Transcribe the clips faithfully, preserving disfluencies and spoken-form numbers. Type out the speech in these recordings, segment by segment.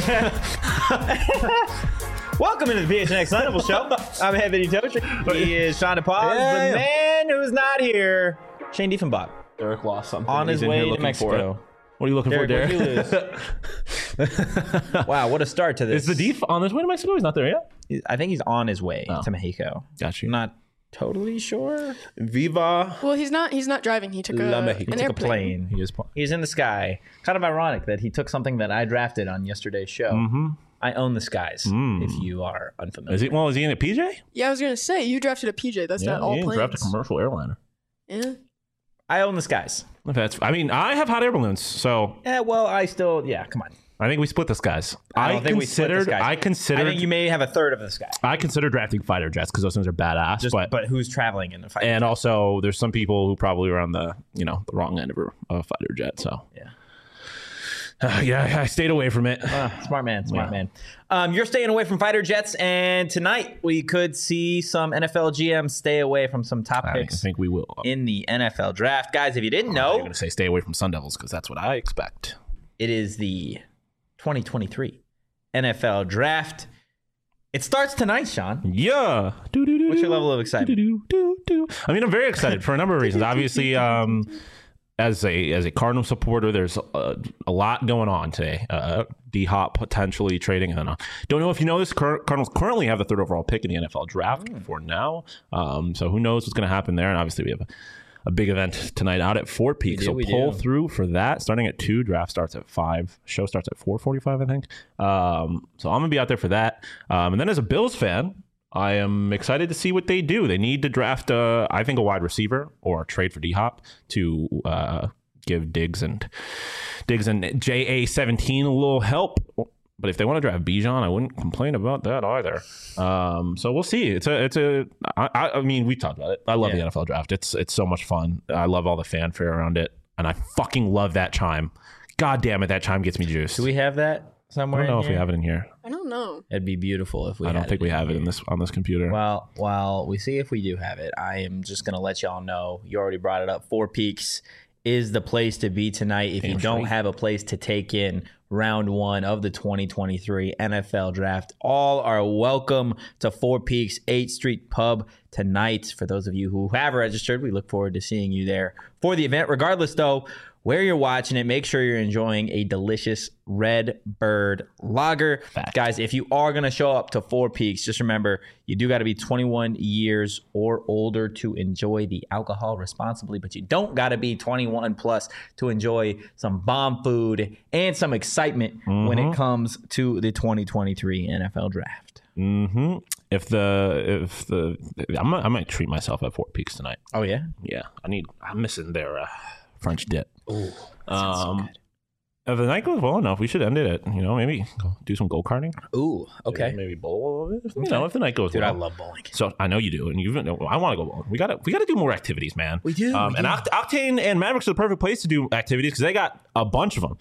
Welcome into the P H N X Sun Devil Show. I'm Anthony Tocher. He is Sean DePaz, Yeah. the man who's not here, Shane Diefenbach. Derek lost something. On his He's in here way to looking Mexico. for it. What are you looking Derek, for, what'd Derek? you lose? Wow, what a start to this. Is the Deef on his way to Mexico? He's not there yet? I think he's on his way Oh. to Mexico. Got you. I'm not totally sure. Viva. Well, he's not. He's not driving. He took La a, Mexico. an He took a airplane. plane. He is. pl- He's in the sky. Kind of ironic that he took something that I drafted on yesterday's show. Mm-hmm. I own the skies, Mm. if you are unfamiliar. Is he? Well, is he in a P J? Yeah, I was gonna say you drafted a P J. That's not all he didn't planes. draft a commercial airliner. Yeah. I own the skies. If that's. I mean, I have hot air balloons, so Yeah, well, I still, yeah, come on. I think we split the skies. I don't think we split the considered. skies. I considered. I think you may have a third of the sky. I consider drafting fighter jets because those things are badass. Just, but but who's traveling in the fight? and also, there's some people who probably were on the you know the wrong end of a, a fighter jet. So Yeah. Uh, yeah, I stayed away from it. Uh, smart man, smart Yeah. man. Um, you're staying away from fighter jets, and tonight we could see some N F L G Ms stay away from some top I picks think we will. in the N F L draft. Guys, if you didn't You're know, going to say stay away from Sun Devils because that's what I expect. it is the twenty twenty-three N F L draft. It starts tonight, Sean. Yeah. What's your level of excitement? I mean, I'm very excited for a number of reasons. Obviously, um, as a as a Cardinal supporter, there's a, a lot going on today. Uh, D Hop potentially trading. I don't know. Don't know if you know this. Car- Cardinals currently have the third overall pick in the N F L draft Mm. for now. Um, so who knows what's going to happen there? And obviously, we have a, a big event tonight out at Fort Peak. do, So we pull do. through for that. Starting at two. Draft starts at five. Show starts at four forty-five, I think. Um, so I'm gonna be out there for that. Um, and then as a Bills fan, I am excited to see what they do. They need to draft, uh, I think, a wide receiver or trade for D Hop to uh, give Diggs and Diggs and J A seventeen a little help. But if they want to draft Bijan, I wouldn't complain about that either. Um, so we'll see. It's a, it's a. I, I I mean, we talked about it. I love Yeah. the N F L draft. It's, it's so much fun. I love all the fanfare around it, and I fucking love that chime. God damn it, that chime gets me juiced. Do we have that I somewhere? don't know in if we here? have it in here. I don't know. It'd be beautiful if we. I don't had think we in have it here. in this on this computer. Well, while we see if we do have it, I am just going to let y'all know. You already brought it up. Four Peaks is the place to be tonight. If you Damn don't straight. have a place to take in round one of the twenty twenty-three N F L Draft, all are welcome to Four Peaks eighth Street Pub tonight. For those of you who have registered, we look forward to seeing you there for the event. Regardless, though, where you're watching it, make sure you're enjoying a delicious Red Bird Lager. Fact. Guys, if you are going to show up to Four Peaks, just remember, you do got to be twenty-one years or older to enjoy the alcohol responsibly, but you don't got to be twenty-one plus to enjoy some bomb food and some excitement when it comes to the twenty twenty-three N F L Draft. Mm-hmm. If the if the I might, I might treat myself at Fort Peaks tonight. Oh, yeah? Yeah, I need. I'm missing their uh, French dip. Ooh, Um, if the night goes well enough, we should end it at you know maybe go do some go karting. Ooh, okay. Maybe bowl a little bit. You know, if the night goes Dude, I well. love bowling. So I know you do, and you. I want to go bowling. We got to. We got to do more activities, man. We do, Um, we and do. Oct- Octane and Mavericks are the perfect place to do activities because they got a bunch of them: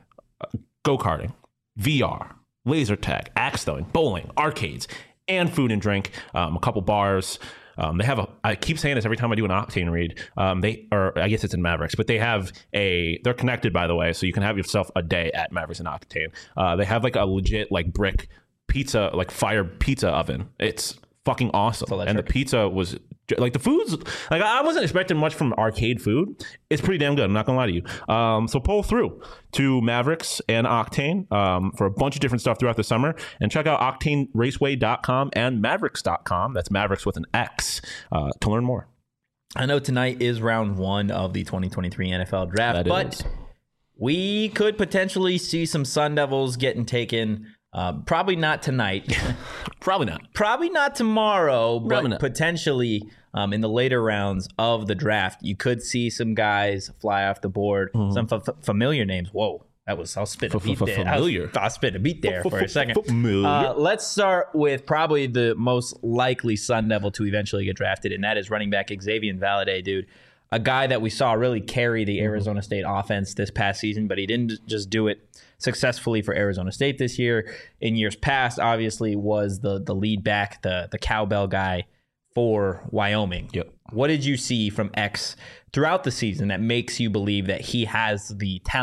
go karting, V R, laser tag, axe throwing, bowling, arcades, and food and drink. Um, a couple bars. Um, they have a. I keep saying this every time I do an Octane read. Um, they or I guess it's in Mavericks, but they have a. They're connected, by the way, so you can have yourself a day at Mavericks and Octane. Uh, they have like a legit like brick pizza, like fire pizza oven. It's fucking awesome, and the electric. pizza was like the food's like I wasn't expecting much from arcade food. It's pretty damn good. I'm not gonna lie to you. Um, so pull through to Mavericks and Octane um, for a bunch of different stuff throughout the summer, and check out octane raceway dot com and mavericks dot com. That's Mavericks with an X uh, to learn more. I know tonight is round one of the twenty twenty-three N F L Draft, That but is. we could potentially see some Sun Devils getting taken. Uh, probably not tonight. Probably not. Probably not tomorrow, but Probably not. potentially um, in the later rounds of the draft, you could see some guys fly off the board. Mm-hmm. Some f- familiar names. Whoa, that was I'll spit a beat there. I was- Familiar. I'll spit a beat there for a second. Familiar. Uh, let's start with probably the most likely Sun Devil to eventually get drafted, and that is running back Xavier Valade, dude. A guy that we saw really carry the Arizona State offense this past season, but he didn't just do it successfully for Arizona State this year. In years past, obviously, was the the lead back, the the cowbell guy for Wyoming. Yep. What did you see from X throughout the season that makes you believe that he has the talent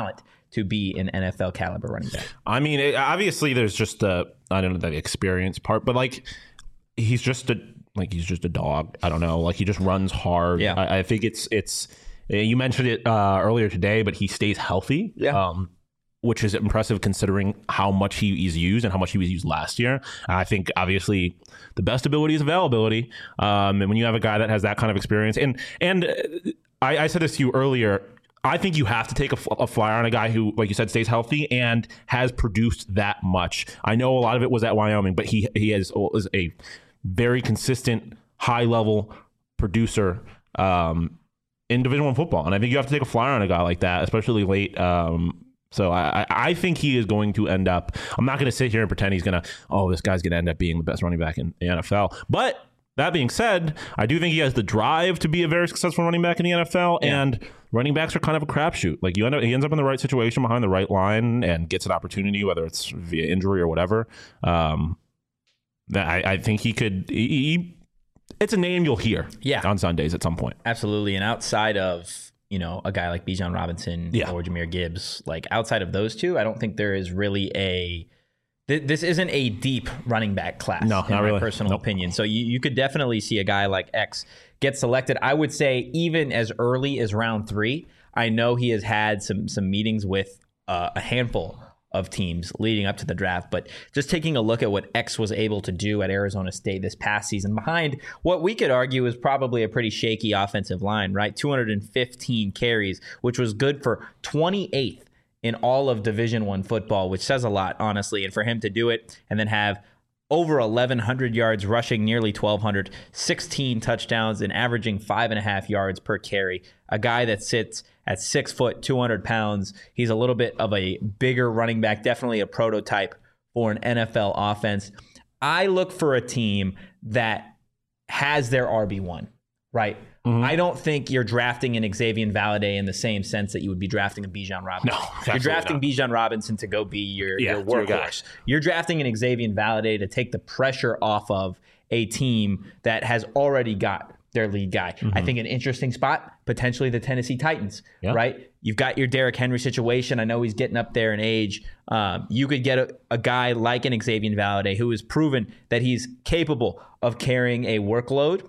to be an N F L caliber running back. I mean, it, obviously, there's just the I don't know the experience part, but like he's just a like he's just a dog. I don't know, like he just runs hard. Yeah, I, I think it's it's. You mentioned it uh, earlier today, but he stays healthy. Yeah. Um, which is impressive considering how much he is used and how much he was used last year. I think obviously the best ability is availability. Um, and when you have a guy that has that kind of experience, and and I, I said this to you earlier, I think you have to take a, a flyer on a guy who, like you said, stays healthy and has produced that much. I know a lot of it was at Wyoming, but he he has, is a very consistent, high level producer um, in Division One football, and I think you have to take a flyer on a guy like that, especially late. Um, So I, I think he is going to end up, I'm not going to sit here and pretend he's going to, oh, this guy's going to end up being the best running back in the N F L. But that being said, I do think he has the drive to be a very successful running back in the N F L. Yeah. And running backs are kind of a crapshoot. Like you end up, he ends up in the right situation behind the right line and gets an opportunity, whether it's via injury or whatever. Um, I, I think he could, he, he, it's a name you'll hear yeah. on Sundays at some point. Absolutely. And outside of, you know, a guy like Bijan Robinson yeah. or Jahmyr Gibbs, like outside of those two, I don't think there is really a, th- this isn't a deep running back class. No, in not my really. personal Nope. opinion. So you, you could definitely see a guy like X get selected. I would say even as early as round three. I know he has had some, some meetings with uh, a handful of teams leading up to the draft, but just taking a look at what X was able to do at Arizona State this past season behind what we could argue is probably a pretty shaky offensive line, right? two hundred fifteen carries, which was good for twenty-eighth in all of Division One football, which says a lot, honestly. And for him to do it and then have over eleven hundred yards rushing, nearly twelve hundred, sixteen touchdowns, and averaging five and a half yards per carry. A guy that sits at six foot, two hundred pounds. He's a little bit of a bigger running back, definitely a prototype for an N F L offense. I look for a team that has their R B one, right? Mm-hmm. I don't think you're drafting an Xavier Valladay in the same sense that you would be drafting a Bijan Robinson. No, you're drafting not. Bijan Robinson to go be your, yeah, your workhorse. You're drafting an Xavier Valladay to take the pressure off of a team that has already got their lead guy. Mm-hmm. I think an interesting spot, potentially the Tennessee Titans, yeah. right? You've got your Derrick Henry situation. I know he's getting up there in age. Um, you could get a, a guy like an Xavier Valladay who has proven that he's capable of carrying a workload.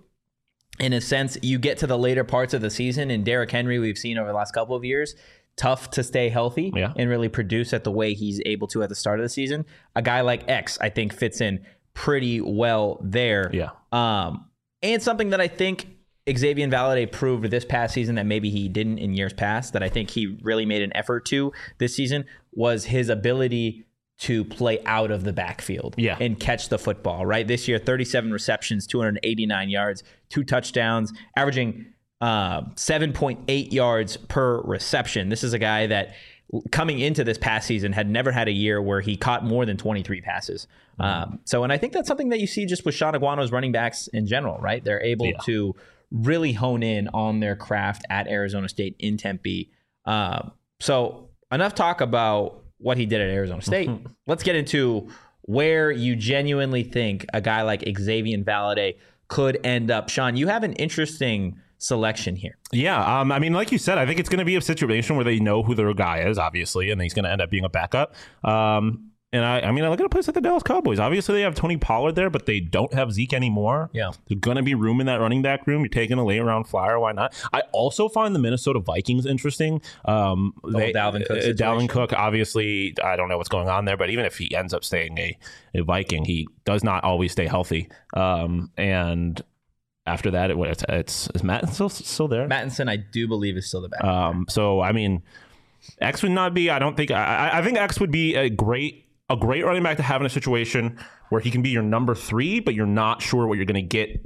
In a sense, you get to the later parts of the season, and Derrick Henry, we've seen over the last couple of years, tough to stay healthy yeah. and really produce at the way he's able to at the start of the season. A guy like X, I think, fits in pretty well there. Yeah. Um, and something that I think Xavier Valladay proved this past season that maybe he didn't in years past, that I think he really made an effort to this season, was his ability to play out of the backfield yeah. and catch the football, right? This year, thirty-seven receptions, two hundred eighty-nine yards, two touchdowns, averaging uh, seven point eight yards per reception. This is a guy that coming into this past season had never had a year where he caught more than twenty-three passes. Mm-hmm. Um, so, and I think that's something that you see just with Sean Aguano's running backs in general, right? They're able yeah. to really hone in on their craft at Arizona State in Tempe. Uh, so enough talk about what he did at Arizona State. Mm-hmm. Let's get into where you genuinely think a guy like Xavier Valladay could end up. Sean, you have an interesting selection here. Yeah, um, I mean, like you said, I think it's going to be a situation where they know who their guy is, obviously, and he's going to end up being a backup. Um, and I, I mean, I look at a place like the Dallas Cowboys. Obviously, they have Tony Pollard there, but they don't have Zeke anymore. Yeah, there's going to be room in that running back room. You're taking a late round flyer, why not? I also find the Minnesota Vikings interesting. Um, the they, Dalvin Cook. Uh, Dalvin Cook, obviously, I don't know what's going on there, but even if he ends up staying a, a Viking, he does not always stay healthy. Um, and after that, it, it's, it's is Matt still still there? Mattinson, I do believe, is still the back. Um, so I mean, X would not be. I don't think. I, I think X would be a great a great running back to have in a situation where he can be your number three, but you're not sure what you're going to get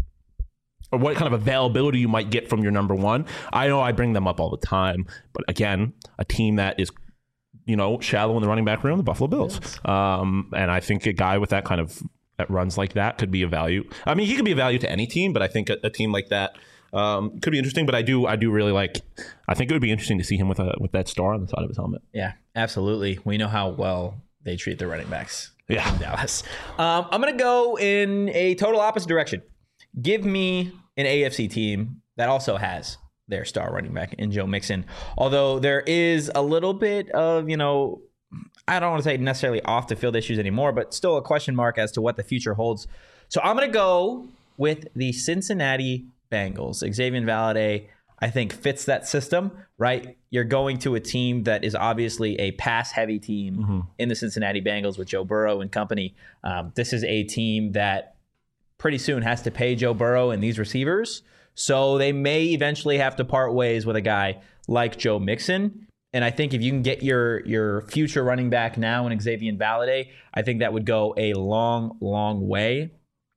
or what kind of availability you might get from your number one. I know I bring them up all the time, but again, a team that is, you know, shallow in the running back room, the Buffalo Bills, yes. um, and I think a guy with that kind of that runs like that could be a value. I mean, he could be a value to any team, but I think a, a team like that um, could be interesting. But I do, I do really like. I think it would be interesting to see him with a with that star on the side of his helmet. Yeah, absolutely. We know how well they treat their running backs. Yeah, in Dallas. Um, I'm gonna go in a total opposite direction. Give me an A F C team that also has their star running back in Joe Mixon. Although there is a little bit of, you know, I don't want to say necessarily off the field issues anymore, but still a question mark as to what the future holds. So I'm going to go with the Cincinnati Bengals. Xavier Valade, I think, fits that system, right? You're going to a team that is obviously a pass-heavy team mm-hmm. in the Cincinnati Bengals with Joe Burrow and company. Um, this is a team that pretty soon has to pay Joe Burrow and these receivers. So they may eventually have to part ways with a guy like Joe Mixon. And I think if you can get your your future running back now in Xavier Valade, I think that would go a long, long way.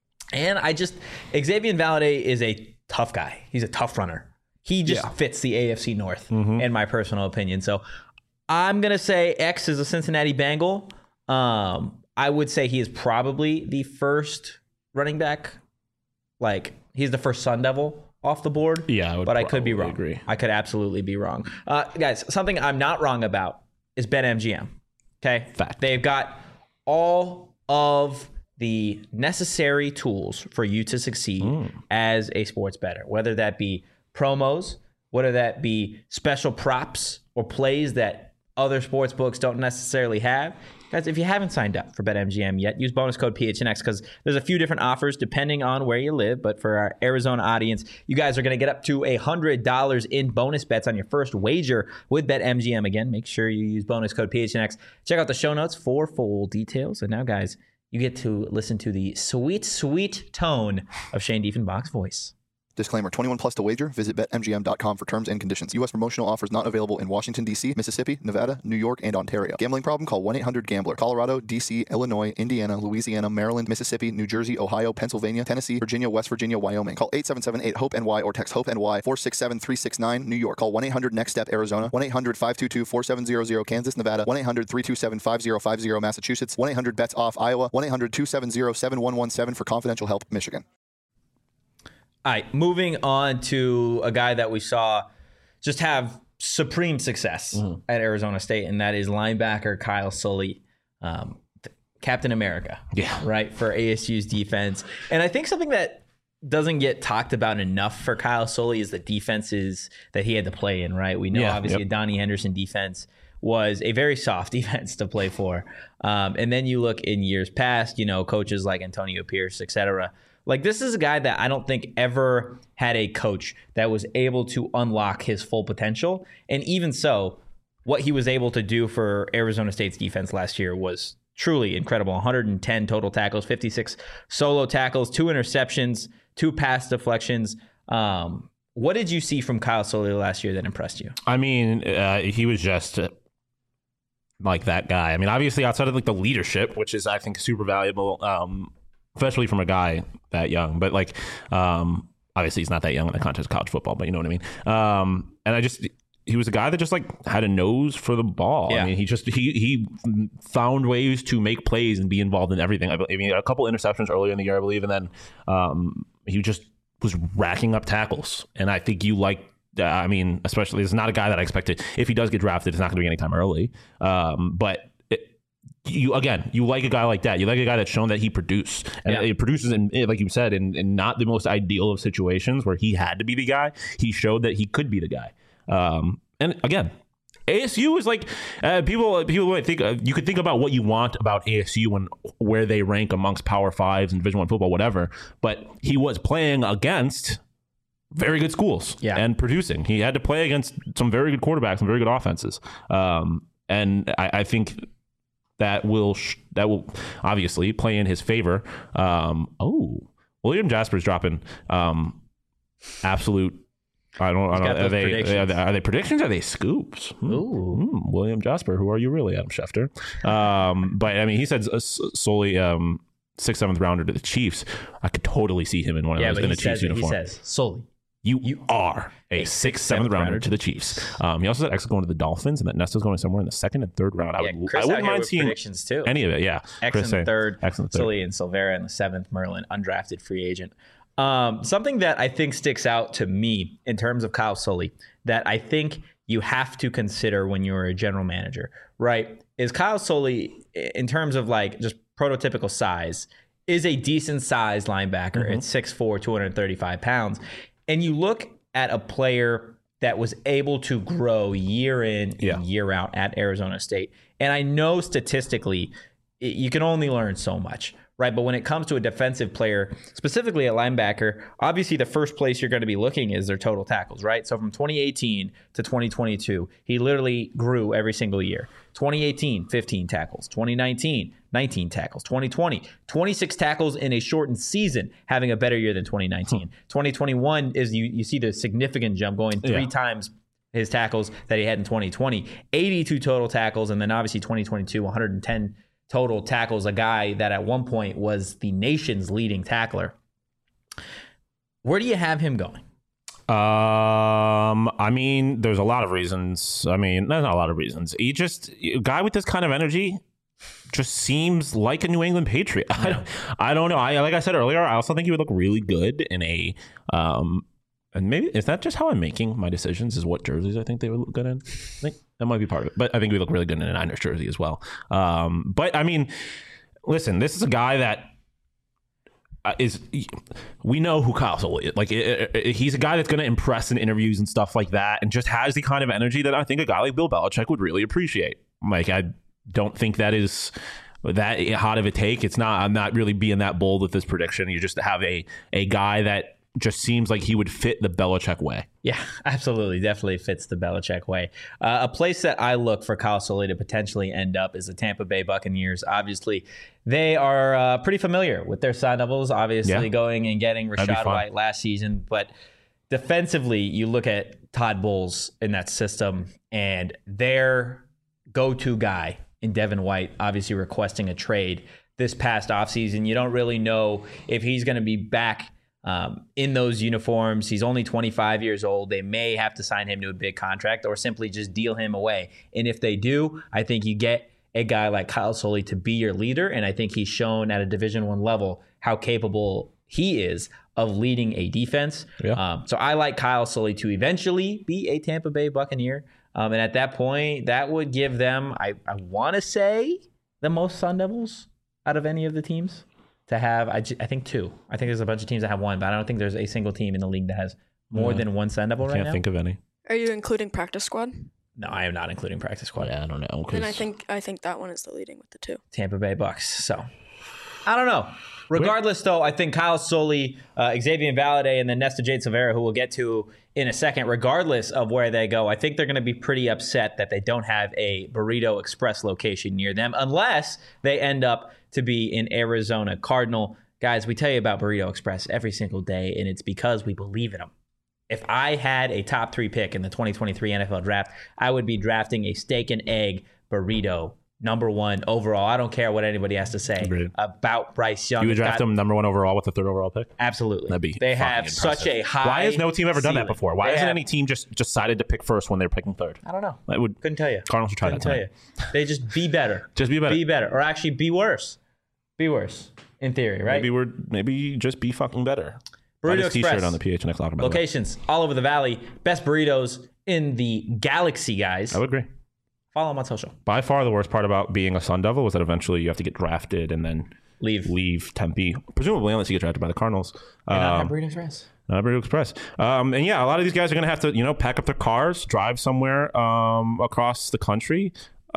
And I just, Xavier Valade is a tough guy. He's a tough runner. He just yeah. fits the A F C North, mm-hmm. in my personal opinion. So I'm going to say X is a Cincinnati Bengal. Um, I would say he is probably the first running back. Like, he's the first Sun Devil off the board. Yeah, I would but I could be wrong. Agree. I could absolutely be wrong. Uh, guys, something I'm not wrong about is BetMGM. Okay? Fact. They've got all of the necessary tools for you to succeed mm. as a sports bettor, whether that be promos, whether that be special props or plays that other sports books don't necessarily have. Guys, if you haven't signed up for BetMGM yet, use bonus code P H N X because there's a few different offers depending on where you live. But for our Arizona audience, you guys are going to get up to one hundred dollars in bonus bets on your first wager with BetMGM. Again, make sure you use bonus code P H N X. Check out the show notes for full details. And now, guys, you get to listen to the sweet, sweet tone of Shane Diefenbach's voice. Disclaimer, twenty-one plus to wager. Visit Bet M G M dot com for terms and conditions. U S promotional offers not available in Washington, D C, Mississippi, Nevada, New York, and Ontario. Gambling problem? Call one eight hundred gambler. Colorado, D C, Illinois, Indiana, Louisiana, Maryland, Mississippi, New Jersey, Ohio, Pennsylvania, Tennessee, Virginia, West Virginia, Wyoming. Call eight seven seven eight hope N Y or text HOPE-NY four six seven three six nine. New York. Call one eight hundred next step Arizona. one eight hundred five two two four seven zero zero. Kansas, Nevada. one eight hundred three two seven five zero five zero. Massachusetts. one eight hundred bets off Iowa. one eight hundred two seven zero seven one one seven for confidential help, Michigan. All right, moving on to a guy that we saw just have supreme success mm-hmm. at Arizona State, and that is linebacker Kyle Sully, um, Captain America, yeah, right, for A S U's defense. And I think something that doesn't get talked about enough for Kyle Sully is the defenses that he had to play in, right? We know, yeah, obviously, yep. a Donnie Henderson defense was a very soft defense to play for. Um, and then you look in years past, you know, coaches like Antonio Pierce, et cetera. Like, this is a guy that I don't think ever had a coach that was able to unlock his full potential. And even so, what he was able to do for Arizona State's defense last year was truly incredible. one hundred ten total tackles, fifty-six solo tackles, two interceptions, two pass deflections. Um, what did you see from Kyle Sully last year that impressed you? I mean, uh, he was just uh, like that guy. I mean, obviously outside of like the leadership, which is, I think, super valuable, um, especially from a guy that young, but like, um, obviously he's not that young in the context of college football, but you know what I mean? Um, and I just, he was a guy that just like had a nose for the ball. Yeah. I mean, he just, he, he found ways to make plays and be involved in everything. I mean, a couple interceptions earlier in the year, I believe. And then, um, he just was racking up tackles. And I think you like, uh, I mean, especially, it's not a guy that I expected. If he does get drafted, it's not going to be anytime early. Um, but You again, you like a guy like that. You like a guy that's shown that he produces, and yeah. it produces, in, like you said, in, in not the most ideal of situations where he had to be the guy. He showed that he could be the guy. Um, and again, A S U is like uh, people. People might think uh, you could think about what you want about A S U and where they rank amongst Power Fives and Division One football, whatever. But he was playing against very good schools, yeah. and producing. He had to play against some very good quarterbacks and very good offenses. Um, and I, I think. That will sh- that will obviously play in his favor. Um, oh, William Jasper's dropping um, absolute. I don't. I don't are, they, are they are they predictions? Or are they scoops? Hmm. Ooh, hmm. William Jasper. Who are you really, Adam Schefter? Um, but I mean, he said uh, solely um, sixth, seventh rounder to the Chiefs. I could totally see him in one of yeah, those in a Chiefs says, uniform. He says solely. You, you are a sixth, seventh rounder, rounder to the Chiefs. Um, he also said X is going to the Dolphins, and that Nesta's going somewhere in the second and third round. I yeah, would, Chris I wouldn't out mind seeing predictions too. Any of it. Yeah, X Chris in the third, X in the third. Sully and Silvera in the seventh, Merlin undrafted free agent. Um, something that I think sticks out to me in terms of Kyle Sully that I think you have to consider when you're a general manager, right? Is Kyle Sully, in terms of like just prototypical size, is a decent sized linebacker mm-hmm. at six foot four, two hundred thirty-five pounds. And you look at a player that was able to grow year in and Yeah. year out at Arizona State. And I know statistically, it, you can only learn so much, right? But when it comes to a defensive player, specifically a linebacker, obviously the first place you're going to be looking is their total tackles, right? So from twenty eighteen to twenty twenty-two, he literally grew every single year. twenty eighteen, fifteen tackles. twenty nineteen, nineteen tackles. twenty twenty, twenty-six tackles in a shortened season, having a better year than twenty nineteen. twenty twenty-one is you, you see the significant jump going three Yeah. times his tackles that he had in twenty twenty. eighty-two total tackles, and then obviously twenty twenty-two, one hundred ten total tackles, a guy that at one point was the nation's leading tackler. Where do you have him going? Um, I mean, there's a lot of reasons. I mean, there's not a lot of reasons. He just, a guy with this kind of energy just seems like a New England Patriot. I, don't, I don't know. I like I said earlier, I also think he would look really good in a, um, and maybe is that just how I'm making my decisions? Is what jerseys I think they would look good in? I think that might be part of it. But I think we look really good in a Niners jersey as well. Um, but I mean, listen, this is a guy that uh, is. We know who Kyle Soelle is. Like it, it, he's a guy that's going to impress in interviews and stuff like that, and just has the kind of energy that I think a guy like Bill Belichick would really appreciate. Like I don't think that is that hot of a take. It's not. I'm not really being that bold with this prediction. You just have a a guy that just seems like he would fit the Belichick way. Yeah, absolutely. Definitely fits the Belichick way. Uh, a place that I look for Kyle Soelle to potentially end up is the Tampa Bay Buccaneers. Obviously, they are uh, pretty familiar with their Sun Devils, obviously Yeah. going and getting That'd be Rachaad fun. White last season. But defensively, you look at Todd Bowles in that system, and their go-to guy in Devin White, obviously requesting a trade this past offseason. You don't really know if he's going to be back Um, in those uniforms. He's only twenty-five years old. They may have to sign him to a big contract or simply just deal him away. And if they do, I think you get a guy like Kyle Soelle to be your leader. And I think he's shown at a Division One level how capable he is of leading a defense. Yeah. Um, so I like Kyle Soelle to eventually be a Tampa Bay Buccaneer. Um, and at that point, that would give them, I, I want to say, the most Sun Devils out of any of the teams. To have, I, ju- I think two. I think there's a bunch of teams that have one, but I don't think there's a single team in the league that has more Yeah. than one Sun Devil right Can't now. think of any. Are you including practice squad? No, I am not including practice squad. Yeah, I don't know. And I think I think that one is the leading with the two. Tampa Bay Bucks. So I don't know. Regardless, though, I think Kyle Soelle, uh, Xavier Valade, and then Nesta Jade Silvera, who we'll get to in a second, regardless of where they go, I think they're going to be pretty upset that they don't have a Burrito Express location near them, unless they end up to be in Arizona Cardinal. Guys, we tell you about Burrito Express every single day, and it's because we believe in them. If I had a top three pick in the twenty twenty-three N F L draft, I would be drafting a steak and egg burrito, number one overall. I don't care what anybody has to say Agreed. about Bryce Young. You would It's draft got- him number one overall with the third overall pick? Absolutely. That'd be they fucking have such impressive. a high. Why has no team ever done that ceiling. before? Why They hasn't have- any team just decided to pick first when they're picking third? I don't know. That would Couldn't tell you. Cardinals should try Couldn't that tell tonight. you. They just be better. Just be better. Be better, or actually be worse. Be worse, in theory, right? Maybe we're maybe just be fucking better. Buy Burrito this T-shirt Express. on the P H N X locker. by the way. Locations all over the valley. Best burritos in the galaxy, guys. I would agree. Follow them on social. By far, the worst part about being a Sun Devil was that eventually you have to get drafted and then Leave. leave Tempe, presumably unless you get drafted by the Cardinals. And not have Um, Burrito Express. Not Burrito Express. Um, and yeah, a lot of these guys are going to have to, you know, pack up their cars, drive somewhere um, across the country.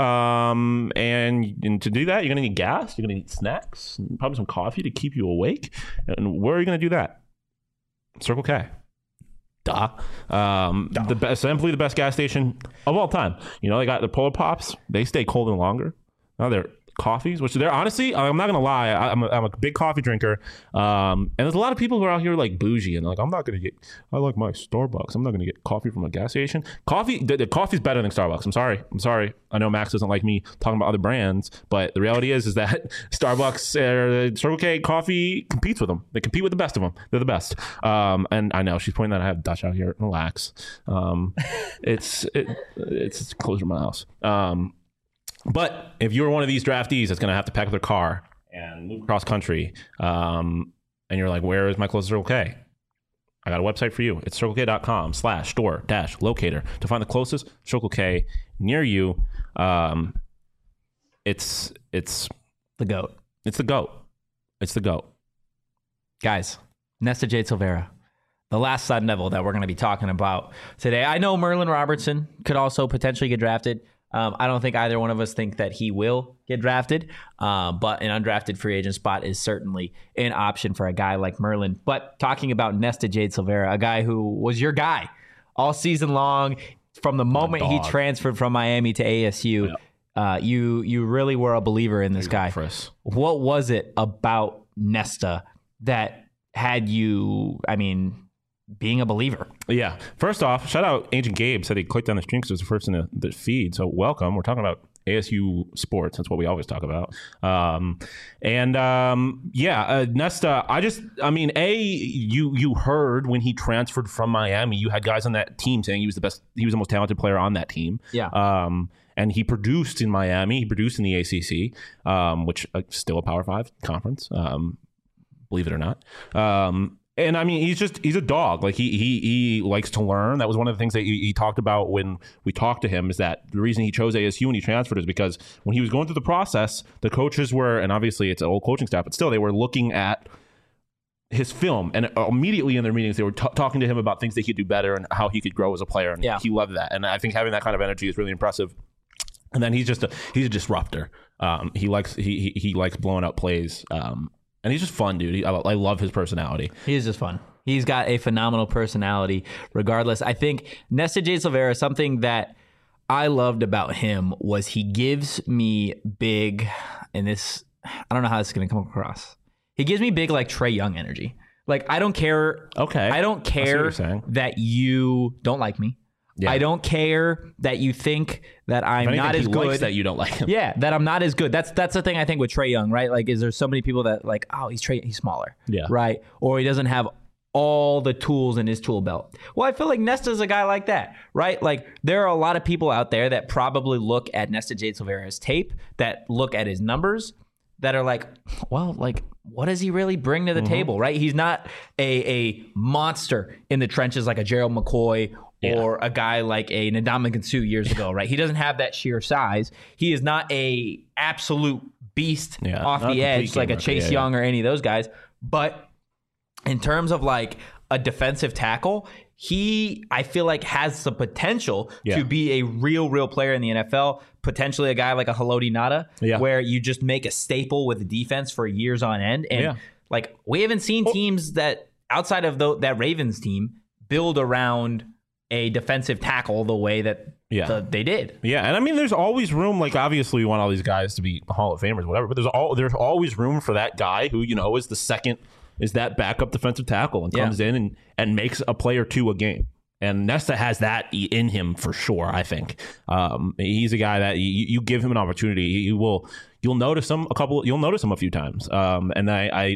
Um, and, and to do that, you're going to need gas. You're going to need snacks, and probably some coffee to keep you awake. And where are you going to do that? Circle K. Duh. Um, Duh. The best, simply the best gas station of all time. You know, they got the Polar Pops. They stay cold and longer. Now they're coffees, which they're honestly, I'm not gonna lie, I, I'm, a, I'm a big coffee drinker, um, and there's a lot of people who are out here like bougie and like, I'm not gonna get, I like my Starbucks, I'm not gonna get coffee from a gas station. Coffee, the, the coffee's better than Starbucks. I'm sorry, I'm sorry. I know Max doesn't like me talking about other brands, but the reality is, is that Starbucks, uh, Circle K coffee competes with them. They compete with the best of them. They're the best. Um, and I know she's pointing that I have Dutch out here. Relax. Um, it's it, it's it's closer to my house. Um. But if you're one of these draftees that's going to have to pack up their car and move across country, um, and you're like, where is my closest Circle K? I got a website for you. It's circlek.com slash store dash locator to find the closest Circle K near you. Um, it's it's The GOAT. it's the GOAT. It's the GOAT. Guys, Nesta Jade Silvera, the last Sun Devil that we're going to be talking about today. I know Merlin Robertson could also potentially get drafted. Um, I don't think either one of us think that he will get drafted, uh, but an undrafted free agent spot is certainly an option for a guy like Merlin. But talking about Nesta Jade Silvera, a guy who was your guy all season long, from the moment he transferred from Miami to A S U, yeah. uh, you you really were a believer in this guy. What was it about Nesta that had you, I mean, being a believer? Yeah. First off, shout out Agent Gabe, said he clicked on the stream because it was the first in the, the feed. So welcome. We're talking about A S U sports. That's what we always talk about. Um, and um, yeah, uh, Nesta, I just, I mean, A, you you heard when he transferred from Miami, you had guys on that team saying he was the best, he was the most talented player on that team. Yeah. Um, and he produced in Miami. He produced in the A C C, um, which uh, still a Power Five conference, um, believe it or not. Um, And I mean, he's just, he's a dog. Like he, he, he likes to learn. That was one of the things that he, he talked about when we talked to him, is that the reason he chose A S U when he transferred is because when he was going through the process, the coaches were, and obviously it's an old coaching staff, but still they were looking at his film, and immediately in their meetings, they were t- talking to him about things that he could do better and how he could grow as a player. And yeah. he loved that. And I think having that kind of energy is really impressive. And then he's just a, he's a disruptor. Um, he likes, he, he, he likes blowing up plays. Um, And he's just fun, dude. He, I, I love his personality. He is just fun. He's got a phenomenal personality regardless. I think Nesta Jade Silvera, something that I loved about him was he gives me big, and this, I don't know how this is going to come across. He gives me big, like, Trae Young energy. Like, I don't care. Okay. I don't care that you don't like me. Yeah. I don't care that you think that I'm anything, not as he good. Likes that you don't like him. Yeah, that I'm not as good. That's that's the thing I think with Trae Young, right? Like, is there so many people that like, oh, he's Trae, he's smaller, yeah, right? Or he doesn't have all the tools in his tool belt. Well, I feel like Nesta's a guy like that, right? Like, there are a lot of people out there that probably look at Nesta Jade Silvera's tape, that look at his numbers, that are like, well, like, what does he really bring to the mm-hmm. table, right? He's not a a monster in the trenches like a Gerald McCoy. Yeah. Or a guy like a Ndamukong Suh years ago, right? He doesn't have that sheer size. He is not a absolute beast yeah, off the edge like a Chase yeah, Young yeah. or any of those guys. But in terms of like a defensive tackle, he, I feel like, has the potential yeah. to be a real, real player in the N F L. Potentially a guy like a Haloti Ngata, yeah. where you just make a staple with the defense for years on end. And yeah. like, we haven't seen oh. teams that outside of the, that Ravens team build around a defensive tackle the way that yeah. the, they did. Yeah, and I mean, there's always room. Like, obviously, we want all these guys to be Hall of Famers, whatever. But there's all there's always room for that guy who, you know, is the second, is that backup defensive tackle and comes yeah. in and, and makes a play or two a game. And Nesta has that in him for sure. I think um, he's a guy that you, you give him an opportunity, you will you'll notice him a couple. You'll notice him a few times. Um, and I, I,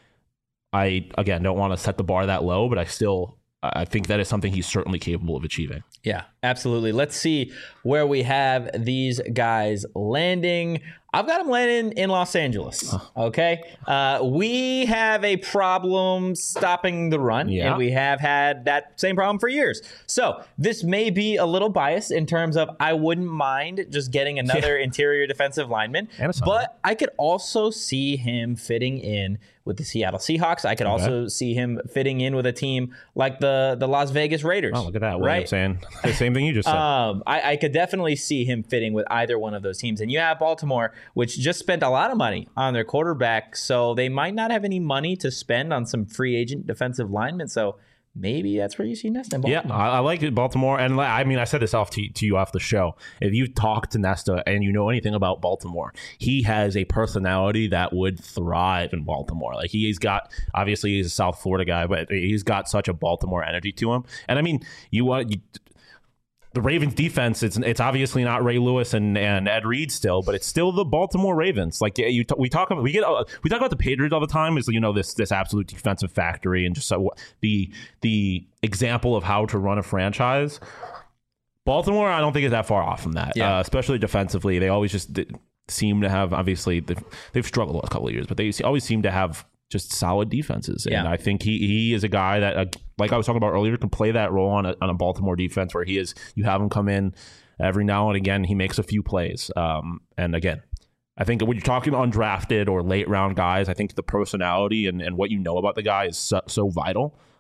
I again don't want to set the bar that low, but I still. I think that is something he's certainly capable of achieving. Yeah, absolutely. Let's see where we have these guys landing. I've got them landing in Los Angeles. Okay. Uh, we have a problem stopping the run, yeah. and we have had that same problem for years. So this may be a little biased in terms of I wouldn't mind just getting another yeah. interior defensive lineman, but I could also see him fitting in with the Seattle Seahawks. I could okay. also see him fitting in with a team like the, the Las Vegas Raiders. Oh, look at that. What right? I'm saying. The same thing you just said. Um, I, I could definitely see him fitting with either one of those teams. And you have Baltimore, which just spent a lot of money on their quarterback, so they might not have any money to spend on some free agent defensive linemen. So maybe that's where you see Nesta in Baltimore. Yeah, I, I like it, Baltimore. And I mean, I said this off to, to you off the show. If you talk to Nesta and you know anything about Baltimore, he has a personality that would thrive in Baltimore. Like, he's got, obviously he's a South Florida guy, but he's got such a Baltimore energy to him. And I mean, you want... You, the Ravens defense, it's it's obviously not Ray Lewis and, and Ed Reed still, but it's still the Baltimore Ravens. Like, you, we talk about we get uh, we talk about the Patriots all the time as, you know, this this absolute defensive factory and just so, the the example of how to run a franchise. Baltimore, I don't think is that far off from that, yeah. uh, especially defensively. They always just seem to have, obviously they've, they've struggled a couple of years, but they always seem to have just solid defenses. Yeah. And I think he he is a guy that, uh, like I was talking about earlier, can play that role on a, on a Baltimore defense where he is, you have him come in every now and again, he makes a few plays. Um, and again, I think when you're talking undrafted or late round guys, I think the personality and, and what you know about the guy is so, so vital.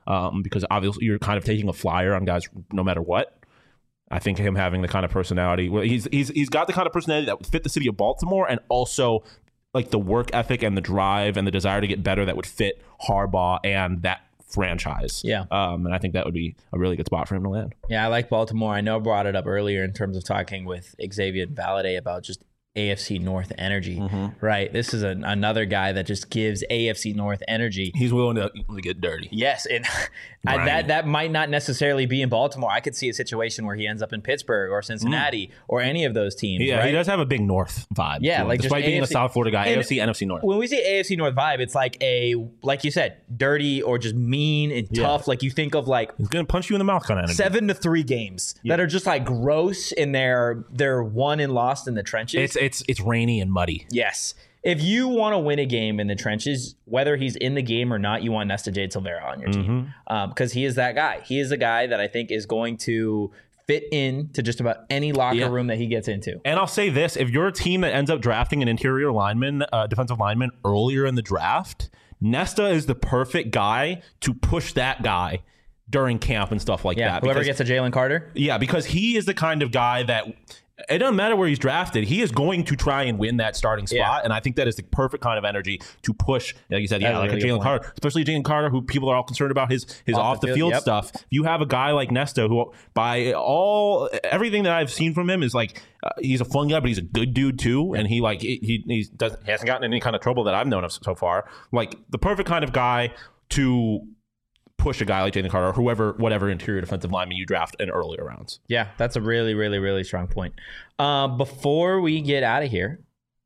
um, because obviously you're kind of taking a flyer on guys no matter what. I think him having the kind of personality, well, he's he's he's got the kind of personality that would fit the city of Baltimore, and also like the work ethic and the drive and the desire to get better that would fit Harbaugh and that franchise. Yeah. Um, and I think that would be a really good spot for him to land. Yeah, I like Baltimore. I know I brought it up earlier in terms of talking with Xavier Valade about just A F C North energy, Mm-hmm. right? This is an, another guy that just gives A F C North energy. He's willing to, to get dirty. Yes, and I, that that might not necessarily be in Baltimore. I could see a situation where he ends up in Pittsburgh or Cincinnati mm. or any of those teams. Yeah, right? he does have a big North vibe. Yeah, like despite just being A F C, a South Florida guy, and A F C, N F C North. When we say A F C North vibe, it's like a like you said, dirty or just mean and Yeah. tough. Like you think of like he's gonna punch you in the mouth kind of energy. Seven to three games yeah. that are just like gross in their they're won and lost in the trenches. It's it's it's rainy and muddy. Yes. If you want to win a game in the trenches, whether he's in the game or not, you want Nesta Jade Silvera on your team because um, he is that guy. He is a guy that I think is going to fit in to just about any locker yeah. room that he gets into. And I'll say this, if you're a team that ends up drafting an interior lineman, uh, defensive lineman earlier in the draft, Nesta is the perfect guy to push that guy during camp and stuff like yeah, that. Whoever because, gets a Jalen Carter? Yeah, because he is the kind of guy that... It doesn't matter where he's drafted. He is going to try and win that starting spot, yeah. and I think that is the perfect kind of energy to push. Like you said, yeah, like really a Jalen Carter, especially Jalen Carter, who people are all concerned about his his off, off the field, field yep. stuff. You have a guy like Nesta, who by all everything that I've seen from him is like uh, he's a fun guy, but he's a good dude too, yeah. and he like he he doesn't he hasn't gotten any kind of trouble that I've known of so far. Like the perfect kind of guy to push a guy like Jalen Carter or whoever, whatever interior defensive lineman you draft in earlier rounds. Yeah, that's a really, really, really strong point. Uh, before we get out of here,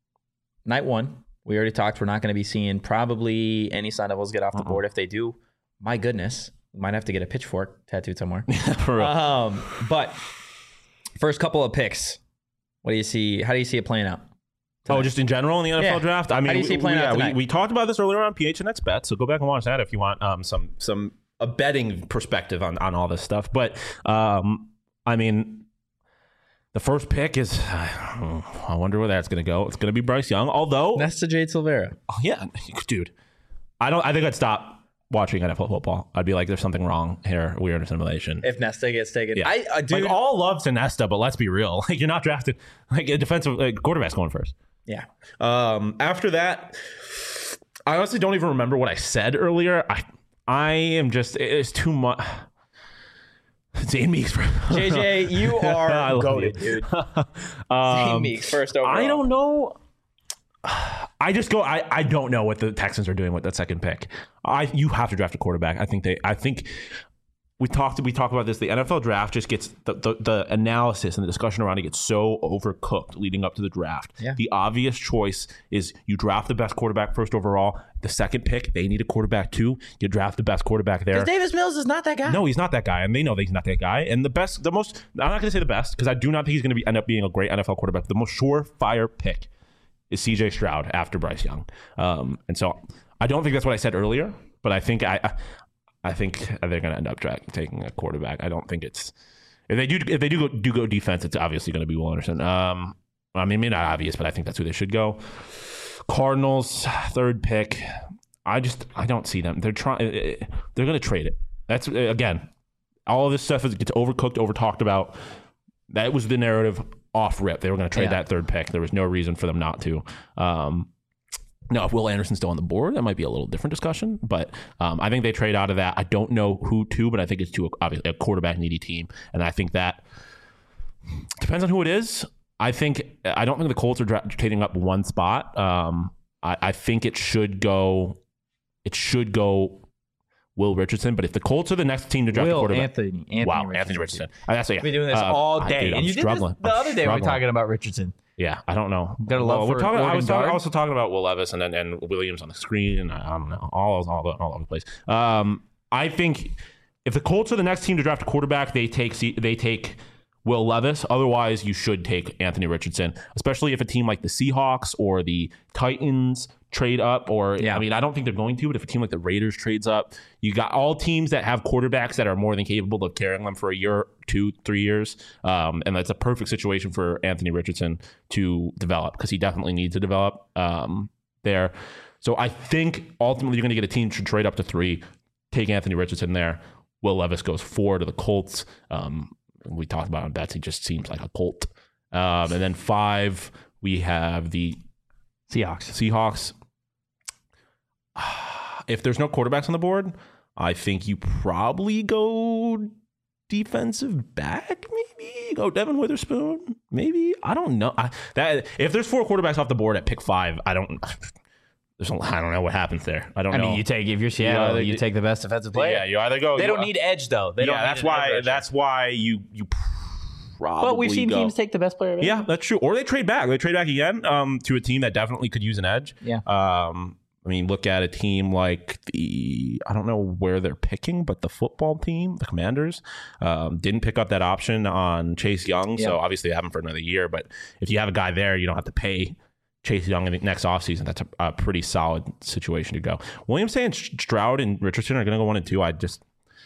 night one, we already talked. We're not going to be seeing probably any Sun Devils get off the uh-uh. board. If they do, my goodness, we might have to get a pitchfork tattooed somewhere. For real. Um, but first couple of picks, what do you see? How do you see it playing out tonight? Oh, just in general in the N F L yeah. draft? I mean, how do you see it playing we, out yeah, tonight? we, we talked about this earlier on P H N X Bet, so go back and watch that if you want um, some some a betting perspective on, on all this stuff. But, um, I mean, the first pick is, uh, I wonder where that's going to go. It's going to be Bryce Young, although... Nesta Jade Silvera. Oh, yeah, dude. I don't. I think I'd stop watching N F L football. I'd be like, there's something wrong here. We're in a simulation. If Nesta gets taken. Yeah. I, I dude, like, all love to Nesta, but let's be real. Like, you're not drafted. Like, a defensive like, quarterback's going first. Yeah. Um. After that, I honestly don't even remember what I said earlier. I... I am just, it's too much. Zane Meeks. J J, you are goated, dude. um, Zane Meeks, first overall. I don't know. I just go, I, I don't know what the Texans are doing with that second pick. I You have to draft a quarterback. I think they, I think we talked, we talked about this. The N F L draft just gets, the, the, the analysis and the discussion around it gets so overcooked leading up to the draft. Yeah. The obvious choice is you draft the best quarterback first overall. The second pick, they need a quarterback too. You draft the best quarterback there. Because Davis Mills is not that guy. No, he's not that guy, and they know that he's not that guy. And the best, the most, I'm not going to say the best, because I do not think he's going to be end up being a great N F L quarterback. The most surefire pick is C J Stroud after Bryce Young. Um, and so I don't think that's what I said earlier, but I think I, I, I think they're going to end up dra- taking a quarterback. I don't think it's if they do if they do go do go defense, it's obviously going to be Will Anderson. Um, I mean, maybe not obvious, but I think that's who they should go. Cardinals third pick. I just I don't see them. They're trying. They're going to trade it. That's again, all of this stuff is, gets overcooked, over talked about. That was the narrative off rip. They were going to trade yeah. that third pick. There was no reason for them not to. Um, now, if Will Anderson's still on the board, that might be a little different discussion. But um, I think they trade out of that. I don't know who to, but I think it's to a, obviously a quarterback needy team, and I think that depends on who it is. I think I don't think the Colts are dra- trading up one spot. Um, I, I think it should go. It should go Will Richardson, but if the Colts are the next team to draft Will a quarterback, Anthony, Anthony wow, Richardson. Anthony Richardson. I, that's, yeah. We've been doing this uh, all day, I, dude, and you did this the I'm other day. struggling. We were talking about Richardson. Yeah, I don't know. Got a love well, for we're talking. I was talking, guard? also talking about Will Levis and then and Williams on the screen, and I, I don't know, all all all over the place. Um, I think if the Colts are the next team to draft a quarterback, they take they take Will Levis. Otherwise, you should take Anthony Richardson, especially if a team like the Seahawks or the Titans trade up, or yeah. I mean, I don't think they're going to, but if a team like the Raiders trades up, you got all teams that have quarterbacks that are more than capable of carrying them for a year, two, three years. Um, and that's a perfect situation for Anthony Richardson to develop, because he definitely needs to develop um, there. So I think ultimately you're going to get a team to trade up to three. take Anthony Richardson there. Will Levis goes four to the Colts. Um, we talked about on bets. He just seems like a Colt. Um, and then five, we have the Seahawks. Seahawks. If there's no quarterbacks on the board, I think you probably go defensive back, maybe go Devin Witherspoon, maybe. I don't know. I, that if there's four quarterbacks off the board at pick five, I don't. There's a, I don't know what happens there. I don't I know. mean, you take if you're Seattle, either- you take the best defensive player. Yeah, you either go. They you, don't need edge though. They yeah, don't. need that's an why. edge rusher. That's why you you probably. But we've seen go. teams take the best player. Yeah, that's true. Or they trade back. They trade back again um, to a team that definitely could use an edge. Yeah. Um, I mean, look at a team like the, I don't know where they're picking, but the football team, the Commanders, um, didn't pick up that option on Chase Young. Yeah. So obviously they have him for another year. But if you have a guy there, you don't have to pay Chase Young in the next offseason. That's a, a pretty solid situation to go. Williams saying Stroud and Richardson are going to go one and two. I just,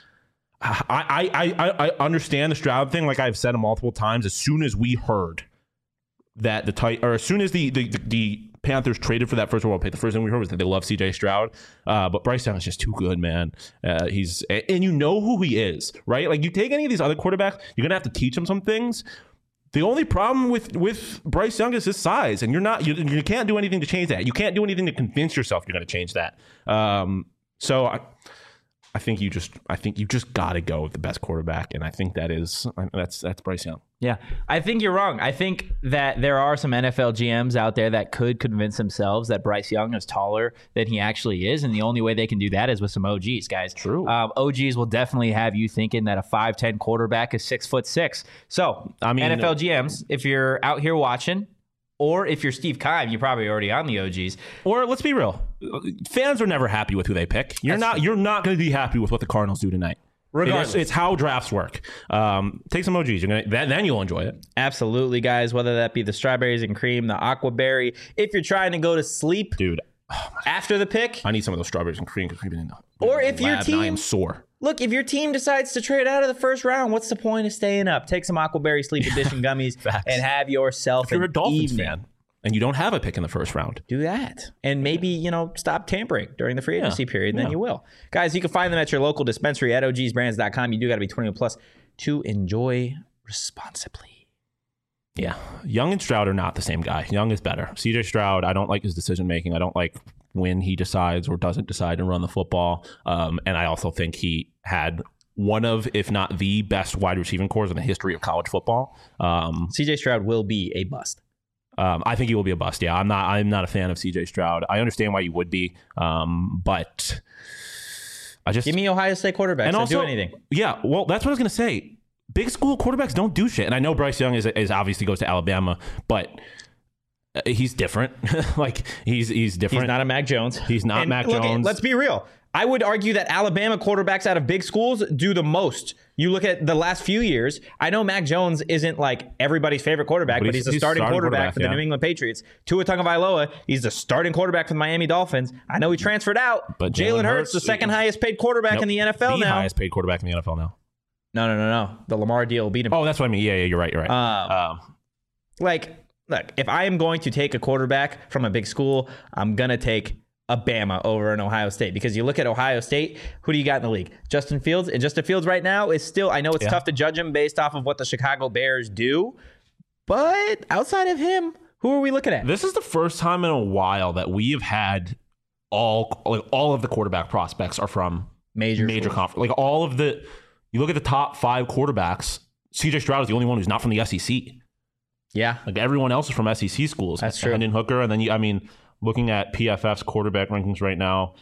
I, I, I, I understand the Stroud thing. Like I've said multiple times, as soon as we heard that the tight, or as soon as the, the, the, the Panthers traded for that first overall pick, the first thing we heard was that they love C J Stroud. Uh, but Bryce Young is just too good, man. Uh, he's, and you know who he is, right? Like you take any of these other quarterbacks, you're going to have to teach them some things. The only problem with, with Bryce Young is his size, and you're not, you, you can't do anything to change that. You can't do anything to convince yourself you're going to change that. Um, so I, I think you just, I think you just got to go with the best quarterback, and I think that is, that's that's Bryce Young. Yeah, I think you're wrong. I think that there are some N F L G Ms out there that could convince themselves that Bryce Young is taller than he actually is, and the only way they can do that is with some O Gs, guys. True. Um, O Gs will definitely have you thinking that a five ten quarterback is six foot six. So, I mean, N F L G Ms, if you're out here watching, or if you're Steve Keim, you're probably already on the O Gs. Or let's be real, fans are never happy with who they pick. You're That's not, true. you're not going to be happy with what the Cardinals do tonight. Regardless. It's, it's how drafts work. Um, take some O Gs. You're gonna, that, then you'll enjoy it. Absolutely, guys, whether that be the strawberries and cream, the aqua berry. If you're trying to go to sleep Dude, after the pick, I need some of those strawberries and cream because we've been in the Or in if the your lab and I am team- sore. look, if your team decides to trade out of the first round, what's the point of staying up? Take some Aquaberry Sleep Edition gummies Facts. and have yourself If you're an a Dolphins evening. fan and you don't have a pick in the first round, Do that. And maybe, you know, stop tampering during the free agency Yeah. period, and then Yeah. you will. Guys, you can find them at your local dispensary at O Gs brands dot com. You do got to be twenty-one plus to enjoy responsibly. yeah, Young and Stroud are not the same guy. Young is better. C J Stroud, I don't like his decision making. I don't like when he decides or doesn't decide to run the football. Um, and I also think he had one of, if not the best wide receiving cores in the history of college football. Um, C J Stroud will be a bust. Um, I think he will be a bust. Yeah, I'm not. I'm not a fan of C J Stroud. I understand why you would be, um, but I just Give me Ohio State quarterbacks and that also do anything. Yeah, well, that's what I was gonna say. Big school quarterbacks don't do shit, and I know Bryce Young is, is obviously goes to Alabama, but uh, he's different. like he's he's different. He's not a Mac Jones. He's not And Mac look, Jones. Let's be real. I would argue that Alabama quarterbacks out of big schools do the most. You look at the last few years. I know Mac Jones isn't like everybody's favorite quarterback, But but, he's- he's, the he's starting, starting quarterback, quarterback, for the yeah. New England Patriots. Tua Tagovailoa, he's the starting quarterback for the Miami Dolphins. I know he transferred out, But but Jalen Jalen Hurts, Hurts, the second uh, highest paid quarterback Nope. in the N F L the now. highest paid quarterback in the N F L now. No, no, no, no. The Lamar deal will beat him. Oh, that's what I mean. Yeah, yeah, you're right. You're right. Um, um, Like, look, if I am going to take a quarterback from a big school, I'm going to take a Bama over an Ohio State, because you look at Ohio State, who do you got in the league? Justin Fields. And Justin Fields right now is still, I know it's Yeah. tough to judge him based off of what the Chicago Bears do, but outside of him, who are we looking at? This is the first time in a while that we have had all like all of the quarterback prospects are from Major major schools. conference. Like all of the, you look at the top five quarterbacks. C J Stroud is the only one who's not from the S E C. Yeah. Like everyone else is from S E C schools. That's true. Hendon Hooker, and then you, I mean, looking at P F F's quarterback rankings right now,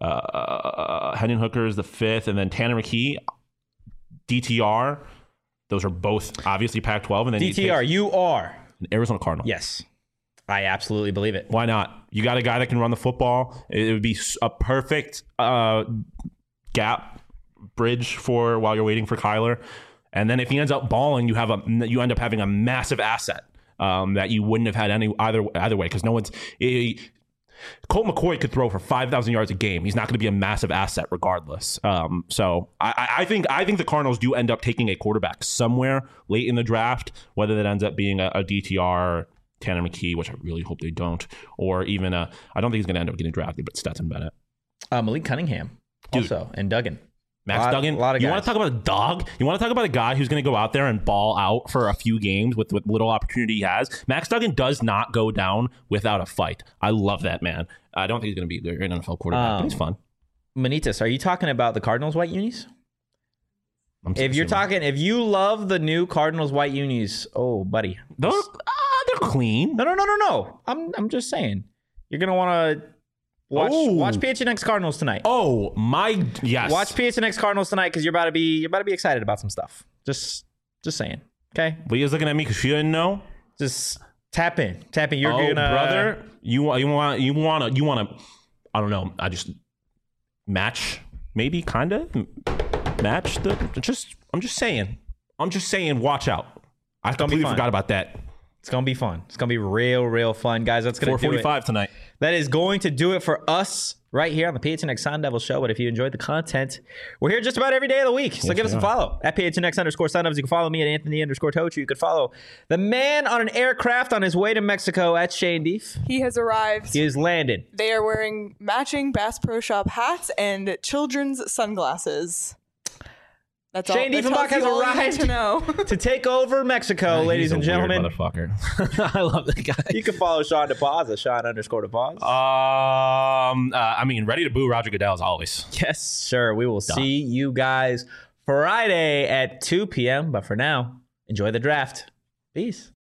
uh, Hendon Hooker is the fifth, and then Tanner McKee, D T R. Those are both obviously Pac twelve, and then D T R, you you are. take Arizona Cardinal. Yes. I absolutely believe it. Why not? You got a guy that can run the football. It would be a perfect uh, gap bridge for while you're waiting for Kyler. And then if he ends up balling, you have a you end up having a massive asset um, that you wouldn't have had any either either way, because no one's. It, Colt McCoy could throw for five thousand yards a game. He's not going to be a massive asset regardless. Um, so I, I think I think the Cardinals do end up taking a quarterback somewhere late in the draft, whether that ends up being a, a D T R, Tanner McKee, which I really hope they don't, or even a, I don't think he's going to end up getting drafted, but Stetson Bennett. Uh, Malik Cunningham Dude. also, and Duggan. Max lot, Duggan. A lot of you guys. want to talk about a dog? You want to talk about a guy who's going to go out there and ball out for a few games with what little opportunity he has? Max Duggan does not go down without a fight. I love that man. I don't think he's going to be a great N F L quarterback, Um, but he's fun. Manitas, are you talking about the Cardinals white unis? I'm If you're assuming. talking, if you love the new Cardinals white unis, oh, buddy. those, ah, they're clean. No, no, no, no, no. I'm, I'm just saying. You're gonna want to watch, Oh. watch P H N X Cardinals tonight. Oh my, yes. Watch P H N X Cardinals tonight because you're about to be, you're about to be excited about some stuff. Just, just saying. Okay, Leah's looking at me because she didn't know. just tap in, tap in. You're oh, gonna, brother, you want, you want, you want to, you want to. I don't know. I just match, maybe, kind of match the. Just, I'm just saying. I'm just saying. Watch out. I gonna be completely fun. forgot about that. It's gonna be fun. It's gonna be real, real fun, guys. That's gonna four do it. forty-five tonight. That is going to do it for us right here on the P H N X Sun Devil Show. But if you enjoyed the content, we're here just about every day of the week. So Yes, give us we a are. follow at P H N X underscore Sun Devils. You can follow me at Anthony underscore Tochu. You can follow the man on an aircraft on his way to Mexico at Shane Beef. He has arrived. He is landed. They are wearing matching Bass Pro Shop hats and children's sunglasses. That's all. Shane that Diefenbach tells has you all you need arrived. to know. To take over Mexico, ladies He's a and weird gentlemen. motherfucker. I love that guy. You can follow Sean DePaz at Sean underscore DePaz. Um, uh, I mean, ready to boo Roger Goodell as always. Yes, sir. We will see you guys Friday at two p.m. But for now, enjoy the draft. Peace.